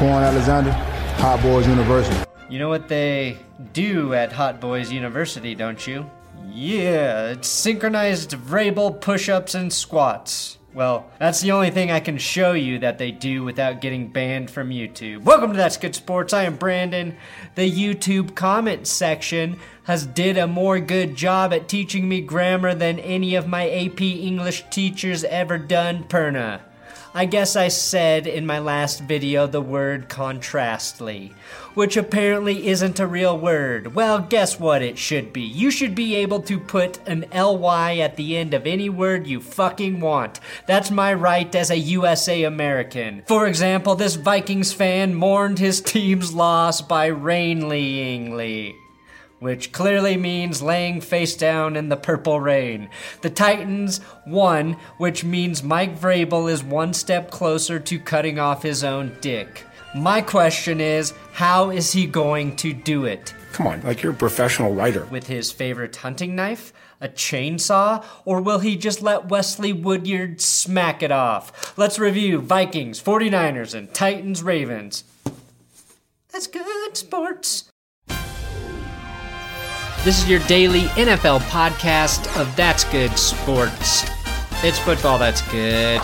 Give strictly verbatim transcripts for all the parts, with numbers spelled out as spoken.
Quan Alexander, Hot Boys University. You know what they do at Hot Boys University, don't you? Yeah, it's synchronized Vrabel push-ups and squats. Well, that's the only thing I can show you that they do without getting banned from YouTube. Welcome to That's Good Sports. I am Brandon. The YouTube comment section has did a more good job at teaching me grammar than any of my A P English teachers ever done, Perna. I guess I said in my last video the word contrastly, which apparently isn't a real word. Well, guess what it should be? You should be able to put an L Y at the end of any word you fucking want. That's my right as a U S A American. For example, this Vikings fan mourned his team's loss by rainlyingly, which clearly means laying face down in the purple rain. The Titans won, which means Mike Vrabel is one step closer to cutting off his own dick. My question is, how is he going to do it? Come on, like you're a professional writer. With his favorite hunting knife? A chainsaw? Or will he just let Wesley Woodyard smack it off? Let's review Vikings, forty-niners, and Titans, Ravens. That's good sports. This is your daily N F L podcast of That's Good Sports. It's football that's good.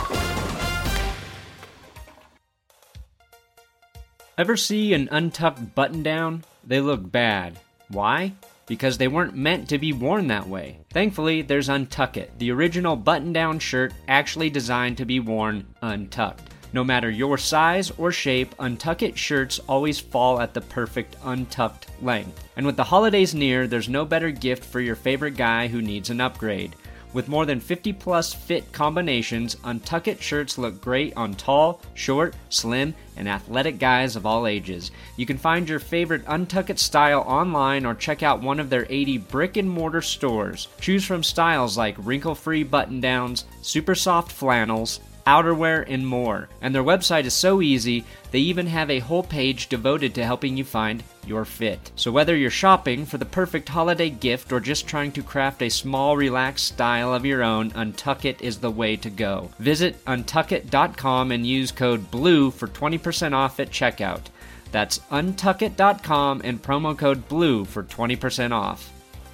Ever see an untucked button down? They look bad. Why? Because they weren't meant to be worn that way. Thankfully, there's Untuck It, the original button-down shirt actually designed to be worn untucked. No matter your size or shape, Untuck It shirts always fall at the perfect untucked length. And with the holidays near, there's no better gift for your favorite guy who needs an upgrade. With more than fifty plus fit combinations, Untuck It shirts look great on tall, short, slim, and athletic guys of all ages. You can find your favorite Untuck It style online or check out one of their eighty brick and mortar stores. Choose from styles like wrinkle-free button-downs, super soft flannels, outerwear, and more. And their website is so easy, they even have a whole page devoted to helping you find your fit. So whether you're shopping for the perfect holiday gift or just trying to craft a small, relaxed style of your own, Untuck It is the way to go. Visit untuck it dot com and use code BLUE for twenty percent off at checkout. That's untuck it dot com and promo code BLUE for twenty percent off.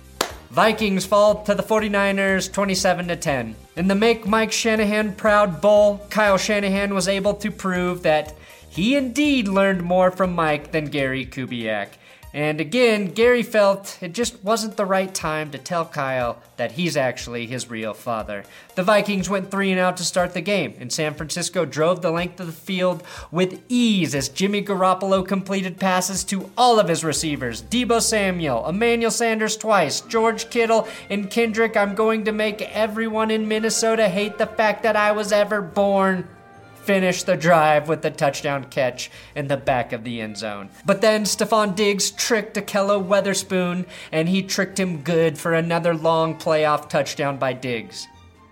Vikings fall to the forty-niners twenty-seven to ten. In the Make Mike Shanahan Proud Bowl, Kyle Shanahan was able to prove that he indeed learned more from Mike than Gary Kubiak. And again, Gary felt it just wasn't the right time to tell Kyle that he's actually his real father. The Vikings went three and out to start the game, and San Francisco drove the length of the field with ease as Jimmy Garoppolo completed passes to all of his receivers. Deebo Samuel, Emmanuel Sanders twice, George Kittle, and Kendrick. I'm going to make everyone in Minnesota hate the fact that I was ever born. Finished the drive with the touchdown catch in the back of the end zone. But then Stephon Diggs tricked Ahkello Witherspoon, and he tricked him good for another long playoff touchdown by Diggs.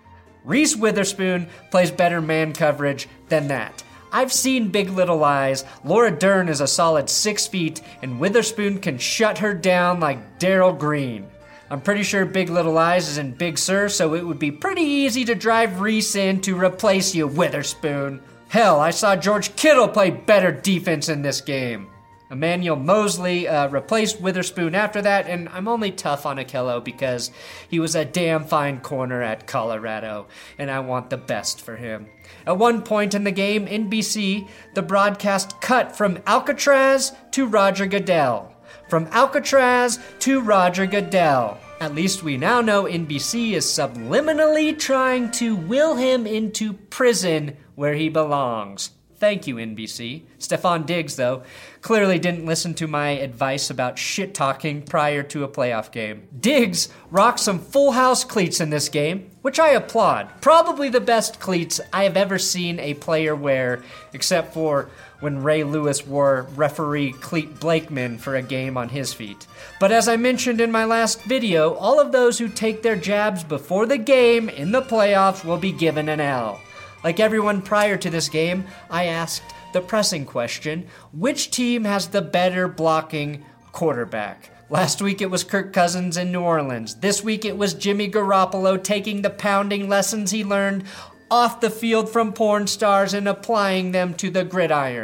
Reese Witherspoon plays better man coverage than that. I've seen Big Little Lies. Laura Dern is a solid six feet, and Witherspoon can shut her down like Daryl Green. I'm pretty sure Big Little Lies is in Big Sur, so it would be pretty easy to drive Reese in to replace you, Witherspoon. Hell, I saw George Kittle play better defense in this game. Emmanuel Mosley uh, replaced Witherspoon after that, and I'm only tough on Ahkello because he was a damn fine corner at Colorado, and I want the best for him. At one point in the game, N B C, the broadcast cut from Alcatraz to Roger Goodell. From Alcatraz to Roger Goodell. At least we now know N B C is subliminally trying to will him into prison where he belongs. Thank you, N B C. Stephon Diggs, though, clearly didn't listen to my advice about shit-talking prior to a playoff game. Diggs rocked some full house cleats in this game, which I applaud. Probably the best cleats I have ever seen a player wear, except for when Ray Lewis wore referee Cleet Blakeman for a game on his feet. But as I mentioned in my last video, all of those who take their jabs before the game in the playoffs will be given an L. Like everyone prior to this game, I asked the pressing question, which team has the better blocking quarterback? Last week it was Kirk Cousins in New Orleans. This week it was Jimmy Garoppolo taking the pounding lessons he learned off the field from porn stars and applying them to the gridiron.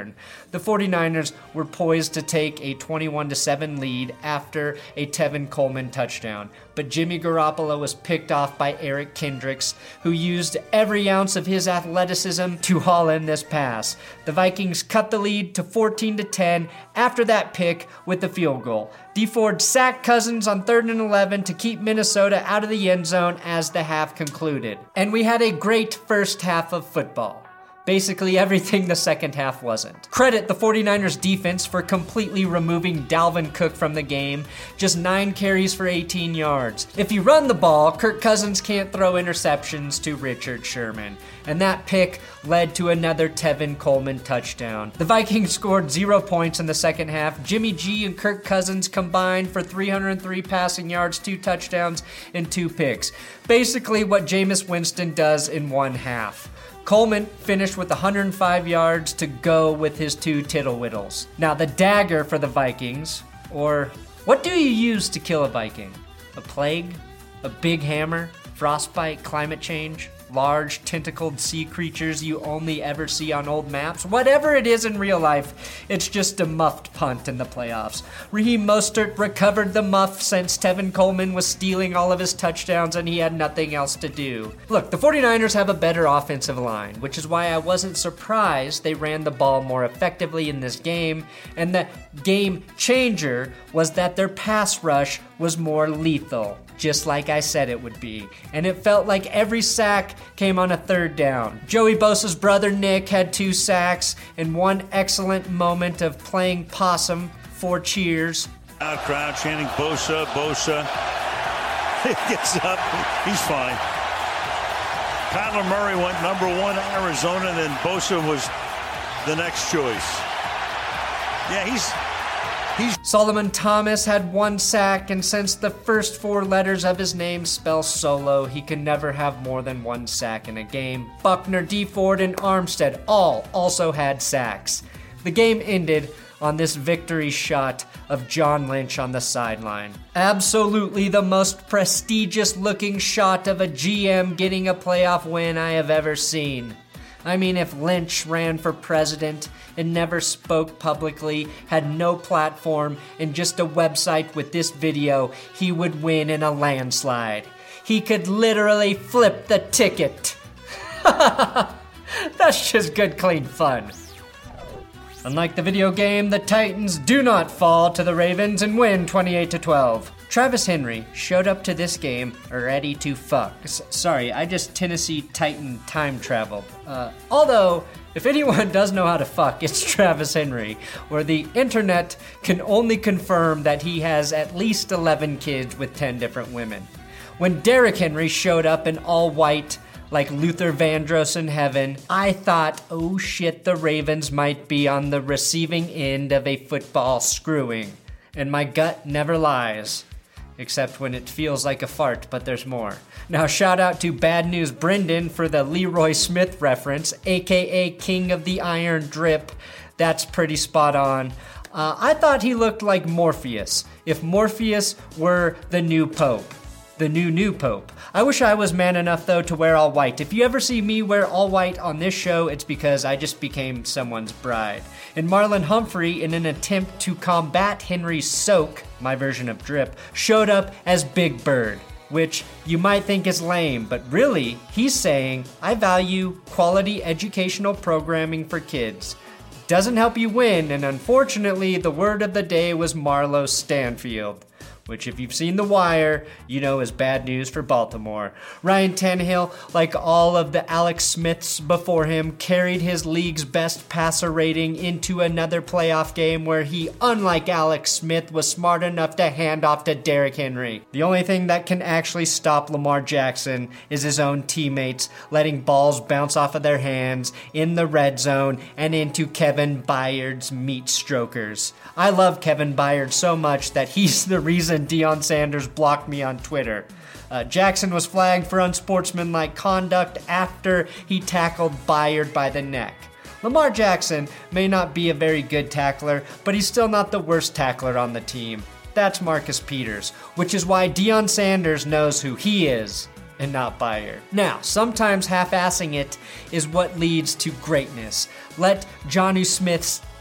the 49ers were poised to take a twenty-one to seven lead after a Tevin Coleman touchdown. But Jimmy Garoppolo was picked off by Eric Kendricks, who used every ounce of his athleticism to haul in this pass. The Vikings cut the lead to fourteen to ten after that pick with the field goal. Dee Ford sacked Cousins on third and eleven to keep Minnesota out of the end zone as the half concluded. And we had a great first half of football. Basically everything the second half wasn't. Credit the 49ers defense for completely removing Dalvin Cook from the game. Just nine carries for eighteen yards. If you run the ball, Kirk Cousins can't throw interceptions to Richard Sherman. And that pick led to another Tevin Coleman touchdown. The Vikings scored zero points in the second half. Jimmy G and Kirk Cousins combined for three hundred three passing yards, two touchdowns, and two picks. Basically what Jameis Winston does in one half. Coleman finished with one hundred five yards to go with his two tittle whittles. Now the dagger for the Vikings, or what do you use to kill a Viking? A plague? A big hammer? Frostbite? Climate change? Large tentacled sea creatures you only ever see on old maps? Whatever it is in real life, it's just a muffed punt in the playoffs. Raheem Mostert recovered the muff since Tevin Coleman was stealing all of his touchdowns and he had nothing else to do. Look, the 49ers have a better offensive line, which is why I wasn't surprised they ran the ball more effectively in this game, and the game changer was that their pass rush was more lethal. Just like I said it would be. And it felt like every sack came on a third down. Joey Bosa's brother Nick had two sacks and one excellent moment of playing possum for cheers. Our crowd chanting Bosa, Bosa. He gets up, he's fine. Kyler Murray went number one in Arizona, and then Bosa was the next choice. Yeah, he's... He's- Solomon Thomas had one sack, and since the first four letters of his name spell solo, he can never have more than one sack in a game. Buckner, Dee Ford, and Armstead all also had sacks. The game ended on this victory shot of John Lynch on the sideline. Absolutely the most prestigious looking shot of a G M getting a playoff win I have ever seen. I mean, if Lynch ran for president and never spoke publicly, had no platform, and just a website with this video, he would win in a landslide. He could literally flip the ticket. That's just good, clean fun. Unlike the video game, the Titans do not fall to the Ravens and win twenty-eight to twelve. Travis Henry showed up to this game ready to fuck. S- sorry, I just Tennessee Titan time traveled. Uh, although, if anyone does know how to fuck, it's Travis Henry, where the internet can only confirm that he has at least eleven kids with ten different women. When Derrick Henry showed up in all white, like Luther Vandross in heaven, I thought, oh shit, the Ravens might be on the receiving end of a football screwing. And my gut never lies. Except when it feels like a fart, but there's more. Now shout out to Bad News Brendan for the Leroy Smith reference, aka King of the Iron Drip. That's pretty spot on. Uh, I thought he looked like Morpheus, if Morpheus were the new Pope. The new new Pope. I wish I was man enough though to wear all white. If you ever see me wear all white on this show, it's because I just became someone's bride. And Marlon Humphrey, in an attempt to combat Henry's soak, my version of drip, showed up as Big Bird, which you might think is lame, but really, he's saying, I value quality educational programming for kids. Doesn't help you win, and unfortunately, the word of the day was Marlo Stanfield, which if you've seen The Wire, you know is bad news for Baltimore. Ryan Tannehill, like all of the Alex Smiths before him, carried his league's best passer rating into another playoff game where he, unlike Alex Smith, was smart enough to hand off to Derrick Henry. The only thing that can actually stop Lamar Jackson is his own teammates letting balls bounce off of their hands in the red zone and into Kevin Byard's meat strokers. I love Kevin Byard so much that he's the reason Deion Sanders blocked me on Twitter. Uh, Jackson was flagged for unsportsmanlike conduct after he tackled Byard by the neck. Lamar Jackson may not be a very good tackler, but he's still not the worst tackler on the team. That's Marcus Peters, which is why Deion Sanders knows who he is and not Byard. Now, sometimes half-assing it is what leads to greatness. Let Jonnu Smith's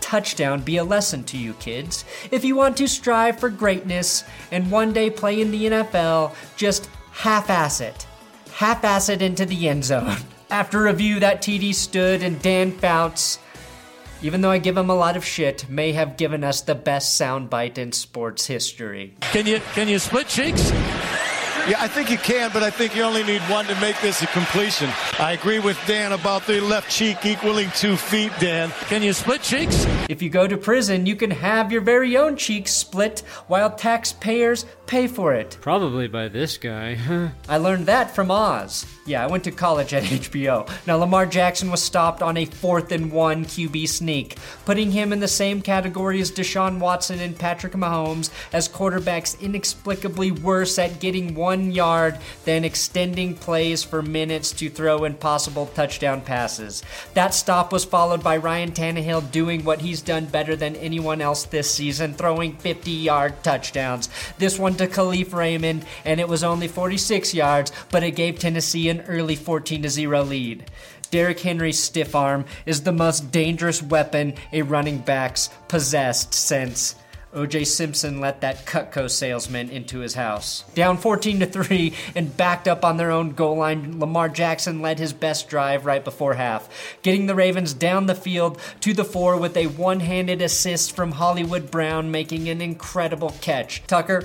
touchdown be a lesson to you kids. If you want to strive for greatness and one day play in the N F L, just half-ass it. Half-ass it into the end zone. After review, that T D stood, and Dan Fouts, even though I give him a lot of shit, may have given us the best soundbite in sports history. Can you can you split cheeks? Yeah, I think you can, but I think you only need one to make this a completion. I agree with Dan about the left cheek equaling two feet, Dan. Can you split cheeks? If you go to prison, you can have your very own cheeks split while taxpayers pay for it. Probably by this guy. I learned that from Oz. Yeah, I went to college at H B O. Now, Lamar Jackson was stopped on a fourth and one Q B sneak, putting him in the same category as Deshaun Watson and Patrick Mahomes as quarterbacks inexplicably worse at getting one yard than extending plays for minutes to throw impossible touchdown passes. That stop was followed by Ryan Tannehill doing what he's done better than anyone else this season, throwing fifty-yard touchdowns. This one to Khalif Raymond, and it was only forty-six yards, but it gave Tennessee an early fourteen to zero lead. Derrick Henry's stiff arm is the most dangerous weapon a running back's possessed since O J Simpson let that Cutco salesman into his house. Down fourteen to three and backed up on their own goal line, Lamar Jackson led his best drive right before half, getting the Ravens down the field to the four with a one-handed assist from Hollywood Brown, making an incredible catch. Tucker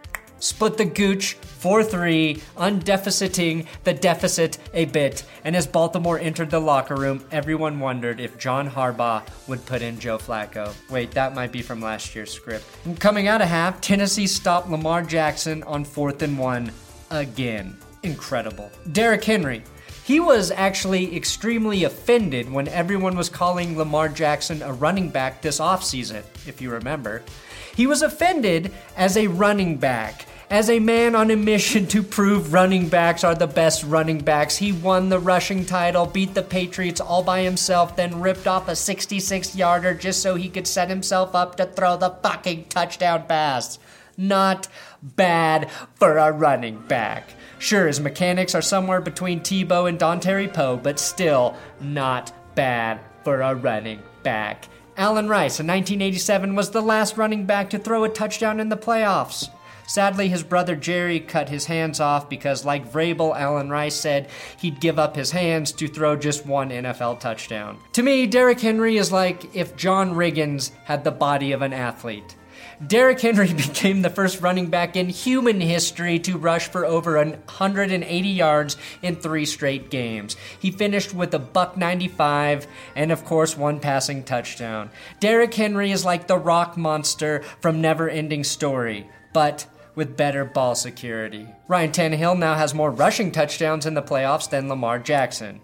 split the gooch four three, undeficiting the deficit a bit, and as Baltimore entered the locker room, everyone wondered if John Harbaugh would put in Joe Flacco. Wait, that might be from last year's script. And coming out of half, Tennessee stopped Lamar Jackson on fourth and one again. Incredible. Derrick Henry. He was actually extremely offended when everyone was calling Lamar Jackson a running back this offseason, if you remember. He was offended as a running back. As a man on a mission to prove running backs are the best running backs, he won the rushing title, beat the Patriots all by himself, then ripped off a sixty-six-yarder just so he could set himself up to throw the fucking touchdown pass. Not bad for a running back. Sure, his mechanics are somewhere between Tebow and Dontari Poe, but still not bad for a running back. Allen Rice in nineteen eighty-seven was the last running back to throw a touchdown in the playoffs. Sadly, his brother Jerry cut his hands off because, like Vrabel, Allen Rice said he'd give up his hands to throw just one N F L touchdown. To me, Derrick Henry is like if John Riggins had the body of an athlete. Derrick Henry became the first running back in human history to rush for over one hundred eighty yards in three straight games. He finished with a buck ninety-five and, of course, one passing touchdown. Derrick Henry is like the rock monster from Never Ending Story, but with better ball security. Ryan Tannehill now has more rushing touchdowns in the playoffs than Lamar Jackson.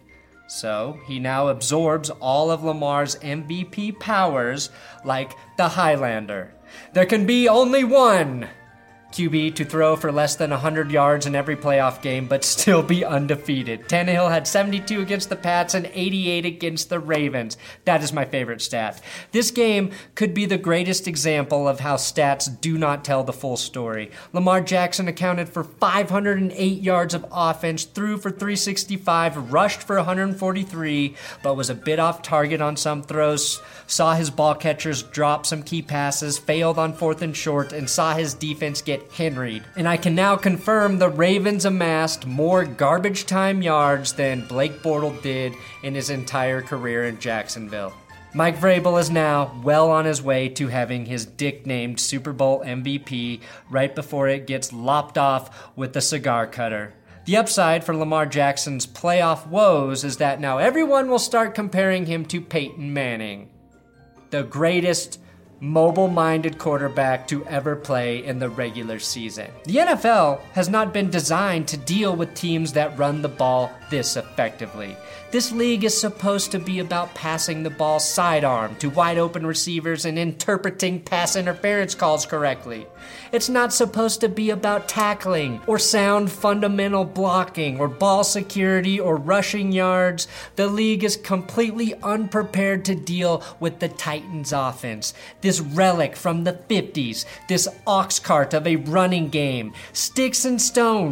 So he now absorbs all of Lamar's M V P powers like the Highlander. There can be only one Q B to throw for less than one hundred yards in every playoff game, but still be undefeated. Tannehill had seventy-two against the Pats and eighty-eight against the Ravens. That is my favorite stat. This game could be the greatest example of how stats do not tell the full story. Lamar Jackson accounted for five hundred eight yards of offense, threw for three sixty-five, rushed for one hundred forty-three, but was a bit off target on some throws, saw his ball catchers drop some key passes, failed on fourth and short, and saw his defense get Henried. And I can now confirm the Ravens amassed more garbage time yards than Blake Bortles did in his entire career in Jacksonville. Mike Vrabel is now well on his way to having his dick-named Super Bowl M V P right before it gets lopped off with the cigar cutter. The upside for Lamar Jackson's playoff woes is that now everyone will start comparing him to Peyton Manning, the greatest mobile-minded quarterback to ever play in the regular season. The N F L has not been designed to deal with teams that run the ball this effectively. This league is supposed to be about passing the ball sidearm to wide-open receivers and interpreting pass interference calls correctly. It's not supposed to be about tackling or sound fundamental blocking or ball security or rushing yards. The league is completely unprepared to deal with the Titans offense. This relic from the fifties, this ox cart of a running game, sticks and stones,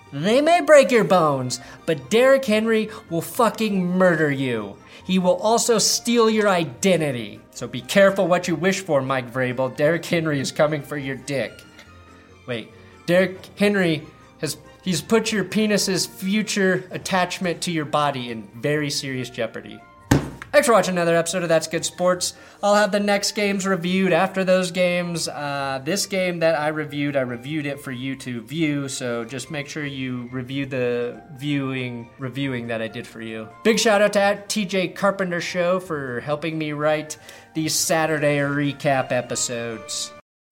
They may break your bones, but Derrick Henry will fucking murder you. He will also steal your identity. So be careful what you wish for, Mike Vrabel. Derrick Henry is coming for your dick. Wait, Derrick Henry has he's put your penis's future attachment to your body in very serious jeopardy. Thanks for watching another episode of That's Good Sports. I'll have the next games reviewed after those games. Uh, this game that I reviewed, I reviewed it for you to view, so just make sure you review the viewing, reviewing that I did for you. Big shout out to T J Carpenter Show for helping me write these Saturday recap episodes.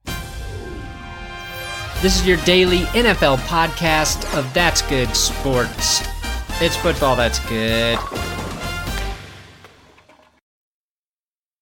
This is your daily N F L podcast of That's Good Sports. It's football that's good.